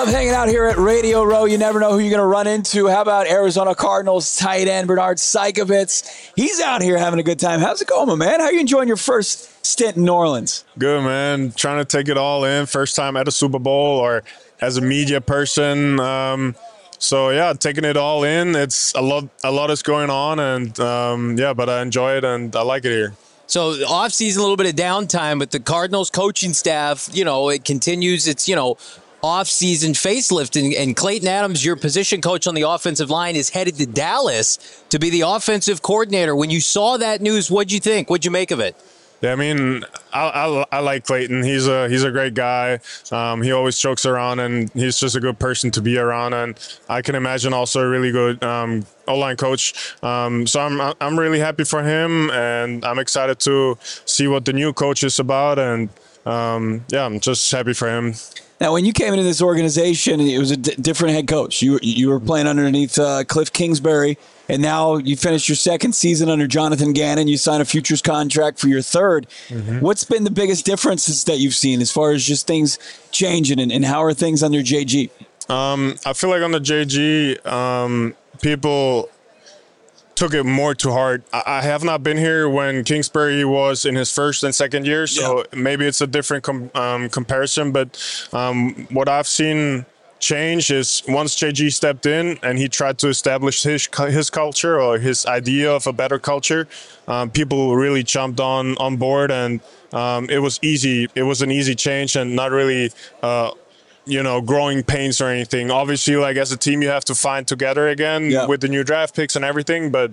Love hanging out here at Radio Row. You never know who you're going to run into. How about Arizona Cardinals tight end Bernard Saikovitz? He's out here having a good time. How's it going, my man? How are you enjoying your first stint in New Orleans? Good, man. Trying to take it all in. First time at a Super Bowl or as a media person. So, yeah, taking it all in. It's a lot is going on. And, but I enjoy it and I like it here. So off-season, a little bit of downtime, but the Cardinals coaching staff, it continues its, off-season facelift. And Clayton Adams, your position coach on the offensive line, is headed to Dallas to be the offensive coordinator. When you saw that news, what'd you think? What'd you make of it? Yeah, I mean, I like Clayton. He's a great guy. He always jokes around, and he's just a good person to be around. And I can imagine also a really good O-line coach. So I'm really happy for him, and I'm excited to see what the new coach is about. And I'm just happy for him. Now, when you came into this organization, it was a different head coach. You were playing underneath Cliff Kingsbury, and now you finished your second season under Jonathan Gannon. You signed a futures contract for your third. Mm-hmm. What's been the biggest differences that you've seen as far as just things changing, and how are things under JG? I feel like under JG, people took it more to heart. I have not been here when Kingsbury was in his first and second year, so maybe it's a different comparison. But what I've seen change is once JG stepped in and he tried to establish his culture or his idea of a better culture, people really jumped on board, and it was easy. It was an easy change and not really growing pains or anything. Obviously, like as a team, you have to find together again with the new draft picks and everything. But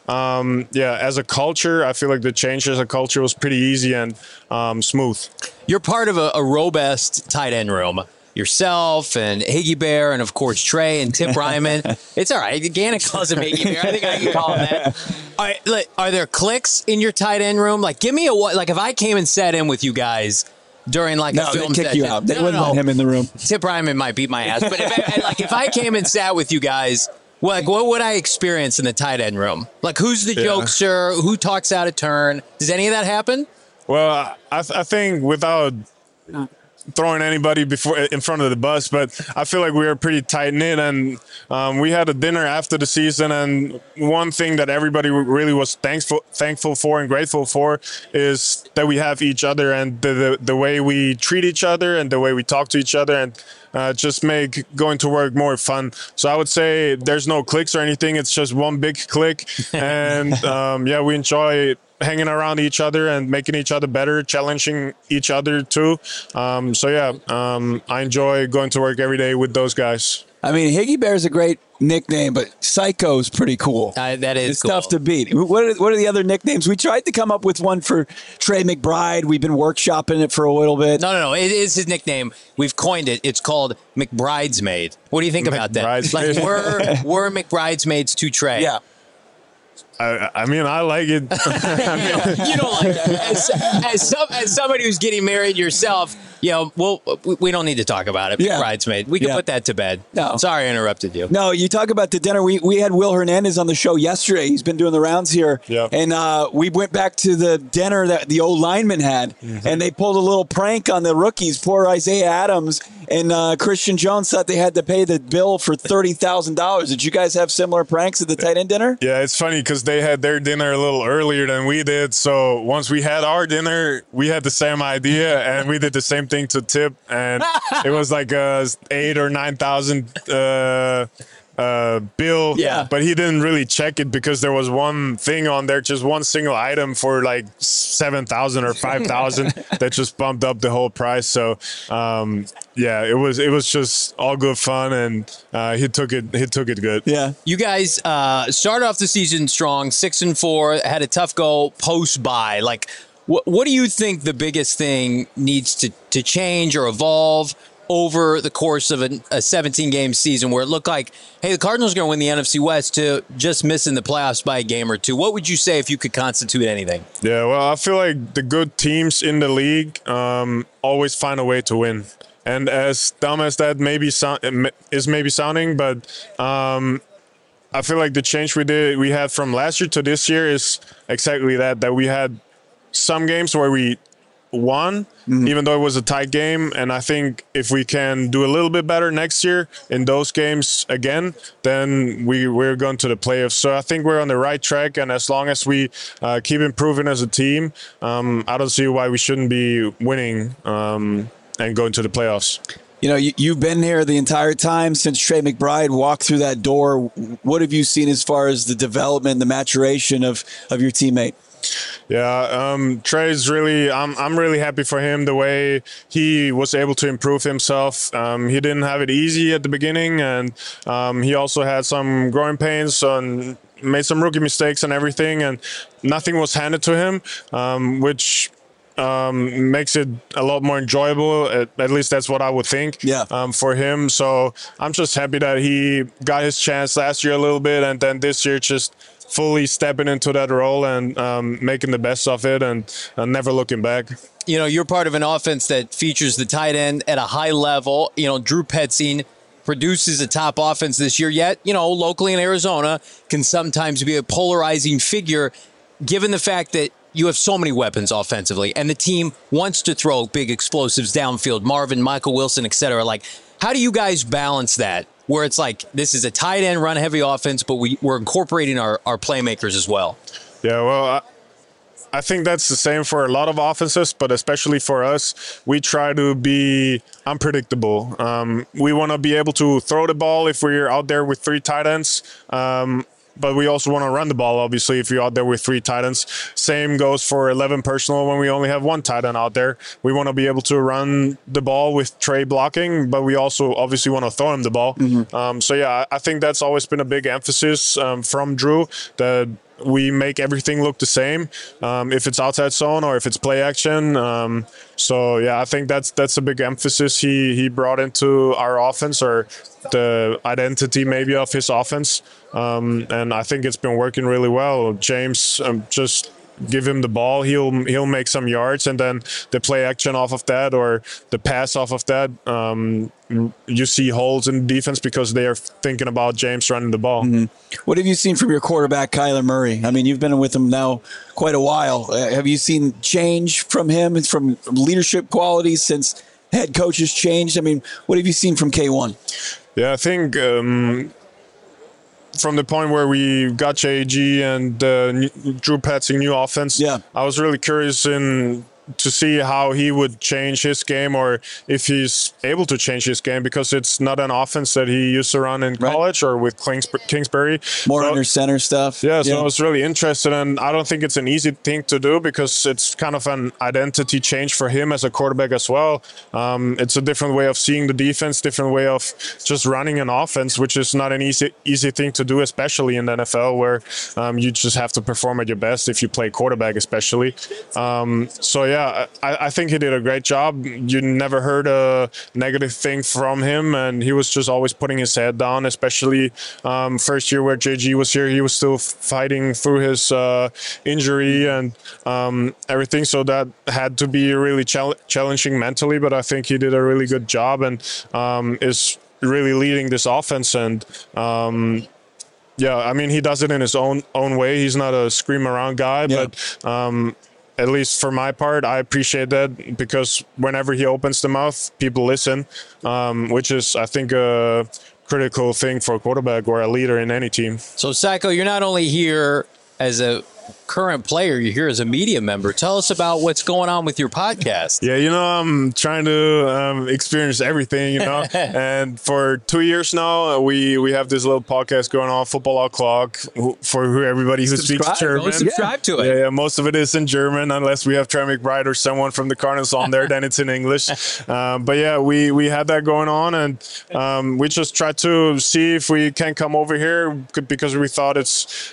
as a culture, I feel like the change as a culture was pretty easy and smooth. You're part of a robust tight end room. Yourself and Higgy Bear and, of course, Trey and Tip Ryman. It's all right. Gannon calls him Higgy Bear. I think I can call him that. Are there cliques in your tight end room? Like, give me if I came and sat in with you guys during a film they'd kick you out. They wouldn't let him in the room. Tip Ryman might beat my ass. But if I came and sat with you guys, what would I experience in the tight end room? Like, who's the jokester? Who talks out of turn? Does any of that happen? Well, I think without throwing anybody in front of the bus, but I feel like we were pretty tight knit, and we had a dinner after the season, and one thing that everybody really was thankful for and grateful for is that we have each other, and the way we treat each other and the way we talk to each other, and just make going to work more fun. So I would say there's no cliques or anything. It's just one big clique, and we enjoy hanging around each other and making each other better, challenging each other too. I enjoy going to work every day with those guys. I mean, Higgy Bear's a great nickname, but Psycho's pretty cool. That is it's tough to beat. What are the other nicknames? We tried to come up with one for Trey McBride. We've been workshopping it for a little bit. No. It is his nickname. We've coined it. It's called McBridesmaid. What do you think about that? Like, we're McBridesmaids to Trey. Yeah. I mean, I like it. You don't like that. As somebody who's getting married yourself, we don't need to talk about it. Bridesmaid. We can put that to bed. No. Sorry I interrupted you. No, you talk about the dinner. We had Will Hernandez on the show yesterday. He's been doing the rounds here. Yeah. And we went back to the dinner that the old lineman had, and they pulled a little prank on the rookies. Poor Isaiah Adams and Christian Jones thought they had to pay the bill for $30,000. Did you guys have similar pranks at the tight end dinner? Yeah, it's funny because they had their dinner a little earlier than we did. So once we had our dinner, we had the same idea, and we did the same thing to Tip, and it was like a $8,000 or $9,000 bill. Yeah. But he didn't really check it because there was one thing on there, just one single item for like $7,000 or $5,000 that just bumped up the whole price. So it was just all good fun, and he took it good. Yeah. You guys started off the season strong, 6-4, had a tough go post-bye. Like, what do you think the biggest thing needs to change or evolve over the course of a 17-game season where it looked like, hey, the Cardinals are going to win the NFC West, to just missing the playoffs by a game or two? What would you say if you could constitute anything? Yeah, well, I feel like the good teams in the league always find a way to win. And as dumb as that is maybe sounding, but I feel like the change we had from last year to this year is exactly that we had some games where we won, even though it was a tight game. And I think if we can do a little bit better next year in those games again, then we're going to the playoffs. So I think we're on the right track. And as long as we keep improving as a team, I don't see why we shouldn't be winning and going to the playoffs. You know, you've been here the entire time since Trey McBride walked through that door. What have you seen as far as the development, the maturation of your teammate? Yeah, Trey's really, I'm really happy for him, the way he was able to improve himself. He didn't have it easy at the beginning, and he also had some growing pains and made some rookie mistakes and everything, and nothing was handed to him, which makes it a lot more enjoyable. At least that's what I would think. Yeah. For him. So I'm just happy that he got his chance last year a little bit, and then this year just fully stepping into that role and making the best of it and never looking back. You know, you're part of an offense that features the tight end at a high level. You know, Drew Petzing produces a top offense this year, yet, you know, locally in Arizona can sometimes be a polarizing figure given the fact that you have so many weapons offensively and the team wants to throw big explosives downfield, Marvin, Michael Wilson, et cetera. Like, how do you guys balance that where it's like this is a tight end run heavy offense, but we're incorporating our playmakers as well? Yeah, well, I think that's the same for a lot of offenses, but especially for us, we try to be unpredictable. We want to be able to throw the ball if we're out there with 3 tight ends. But we also want to run the ball, obviously, if you're out there with 3 tight ends. Same goes for 11 personnel when we only have 1 tight end out there. We want to be able to run the ball with Trey blocking, but we also obviously want to throw him the ball. So, yeah, I think that's always been a big emphasis from Drew, that we make everything look the same, if it's outside zone or if it's play action. So, yeah, I think that's a big emphasis he brought into our offense, or the identity maybe of his offense. And I think it's been working really well. James, just give him the ball, he'll make some yards, and then the play action off of that or the pass off of that, you see holes in defense because they are thinking about James running the ball. What have you seen from your quarterback, Kyler Murray? I mean, you've been with him now quite a while. Have you seen change from him and from leadership qualities since head coach has changed? I mean, what have you seen from K1? Yeah, I think from the point where we got JG and Drew Petzing new offense, I was really curious to see how he would change his game, or if he's able to change his game, because it's not an offense that he used to run in college or with Kingsbury. More under center stuff. Yeah, so I was really interested, and I don't think it's an easy thing to do because it's kind of an identity change for him as a quarterback as well. It's a different way of seeing the defense, different way of just running an offense, which is not an easy thing to do, especially in the NFL, where you just have to perform at your best if you play quarterback, especially. So yeah, I think he did a great job. You never heard a negative thing from him, and he was just always putting his head down, especially first year where JG was here. He was still fighting through his injury and everything, so that had to be really challenging mentally, but I think he did a really good job and is really leading this offense. And yeah, I mean, he does it in his own way. He's not a scream around guy, but at least for my part, I appreciate that, because whenever he opens the mouth, people listen, which is, I think, a critical thing for a quarterback or a leader in any team. So, Sacco, you're not only here as a current player, you're here as a media member. Tell us about what's going on with your podcast. Yeah, I'm trying to experience everything, and for 2 years now, we have this little podcast going on, Football O'Clock, for everybody who speaks German. Go subscribe to it. Yeah, most of it is in German, unless we have Trey McBride or someone from the Cardinals on there, then it's in English. But yeah, we had that going on, and we just tried to see if we can come over here, because we thought it's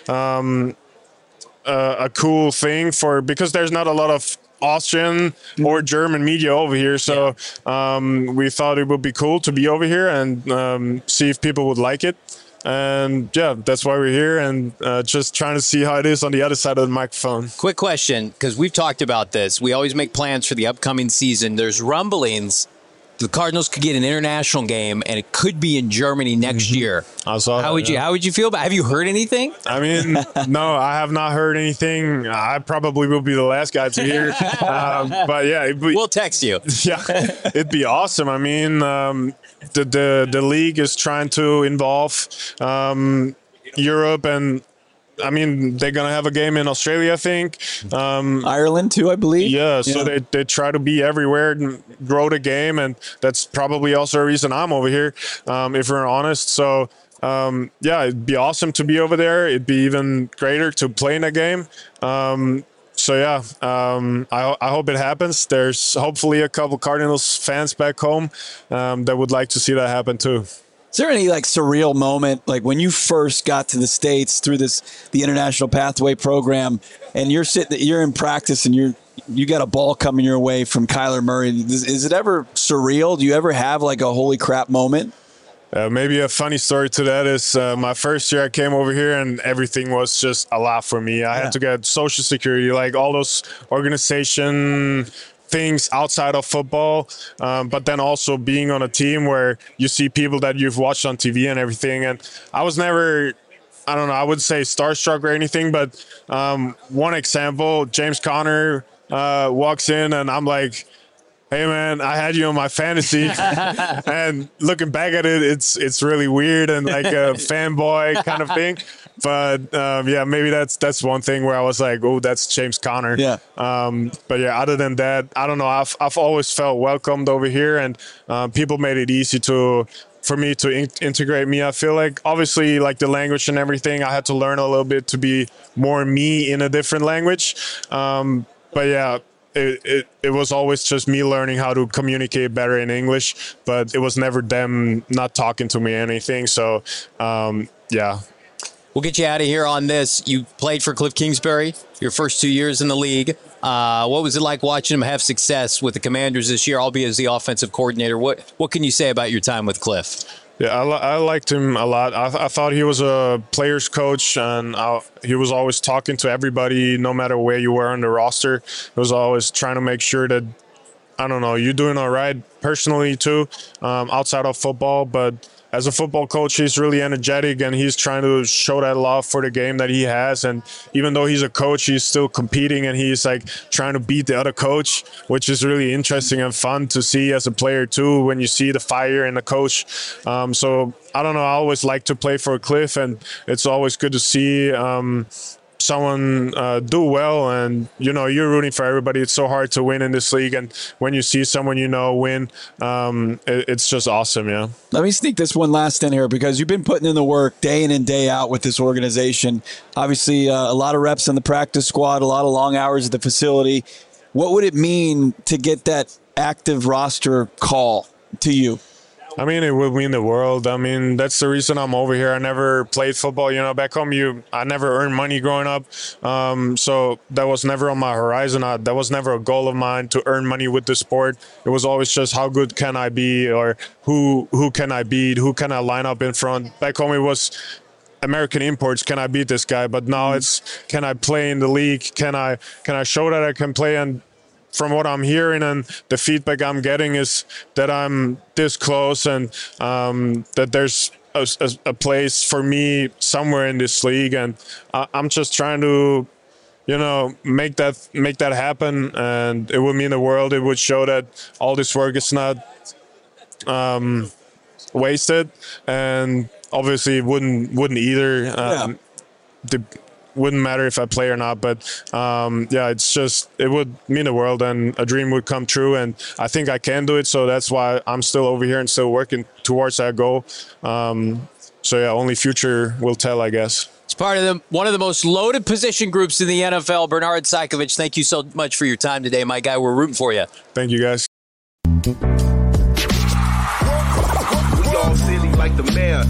a cool thing because there's not a lot of Austrian or German media over here, so we thought it would be cool to be over here and see if people would like it. And yeah, that's why we're here, and just trying to see how it is on the other side of the microphone. Quick question, because we've talked about this. We always make plans for the upcoming season. There's rumblings the Cardinals could get an international game, and it could be in Germany next year. I saw How would you feel about? Have you heard anything? I mean, no, I have not heard anything. I probably will be the last guy to hear. But yeah, We'll text you. Yeah, it'd be awesome. I mean, the league is trying to involve Europe, and I mean, they're going to have a game in Australia, I think. Ireland, too, I believe. Yeah, so they try to be everywhere and grow the game, and that's probably also a reason I'm over here, if we're honest. So, yeah, it'd be awesome to be over there. It'd be even greater to play in a game. So, yeah, I hope it happens. There's hopefully a couple Cardinals fans back home that would like to see that happen, too. Is there any like surreal moment, like when you first got to the States through the International Pathway Program, and you're in practice and you got a ball coming your way from Kyler Murray? Is it ever surreal? Do you ever have like a holy crap moment? Maybe a funny story to that is my first year I came over here and everything was just a lot for me. I had to get Social Security, like all those organization things outside of football, but then also being on a team where you see people that you've watched on TV and everything. And I was never, I don't know, I would say starstruck or anything, but one example, James Conner walks in and I'm like, hey man, I had you on my fantasy. And looking back at it, it's really weird and like a fanboy kind of thing. But yeah, maybe that's one thing where I was like, oh, that's James Conner. Yeah. But yeah, other than that, I don't know. I've always felt welcomed over here, and people made it easy for me to integrate me. I feel like obviously like the language and everything, I had to learn a little bit to be more me in a different language. But yeah. It was always just me learning how to communicate better in English, but it was never them not talking to me or anything. So, yeah. We'll get you out of here on this. You played for Cliff Kingsbury your first 2 years in the league. What was it like watching him have success with the Commanders this year, albeit as the offensive coordinator? What can you say about your time with Cliff? Yeah, I liked him a lot. I thought he was a player's coach, and he was always talking to everybody, no matter where you were on the roster. He was always trying to make sure that, I don't know, you're doing all right personally too, outside of football. But as a football coach, he's really energetic, and he's trying to show that love for the game that he has. And even though he's a coach, he's still competing, and he's like trying to beat the other coach, which is really interesting and fun to see as a player too, when you see the fire in the coach. So I don't know, I always like to play for Cliff, and it's always good to see someone do well. And you know, you're rooting for everybody. It's so hard to win in this league, and when you see someone you know win, it's just awesome. Yeah. Let me sneak this one last in here, because you've been putting in the work day in and day out with this organization. Obviously, a lot of reps in the practice squad, a lot of long hours at the facility. What would it mean to get that active roster call to you? I mean, it would mean the world. I mean, that's the reason I'm over here. I never played football. You know, back home, I never earned money growing up. So that was never on my horizon. That was never a goal of mine to earn money with the sport. It was always just how good can I be, or who can I beat? Who can I line up in front? Back home, it was American imports. Can I beat this guy? But now it's, can I play in the league? Can I show that I can play? And from what I'm hearing and the feedback I'm getting is that I'm this close, and that there's a place for me somewhere in this league. And I'm just trying to, you know, make that happen. And it would mean the world. It would show that all this work is not wasted. And obviously it wouldn't either. Wouldn't matter if I play or not, but yeah, it's just, it would mean the world, and a dream would come true, and I think I can do it. So that's why I'm still over here and still working towards that goal. So yeah, only future will tell, I guess. It's part of one of the most loaded position groups in the NFL. Bernard Saikovich, thank you so much for your time today, my guy. We're rooting for you. Thank you, guys. We all silly like the mayor.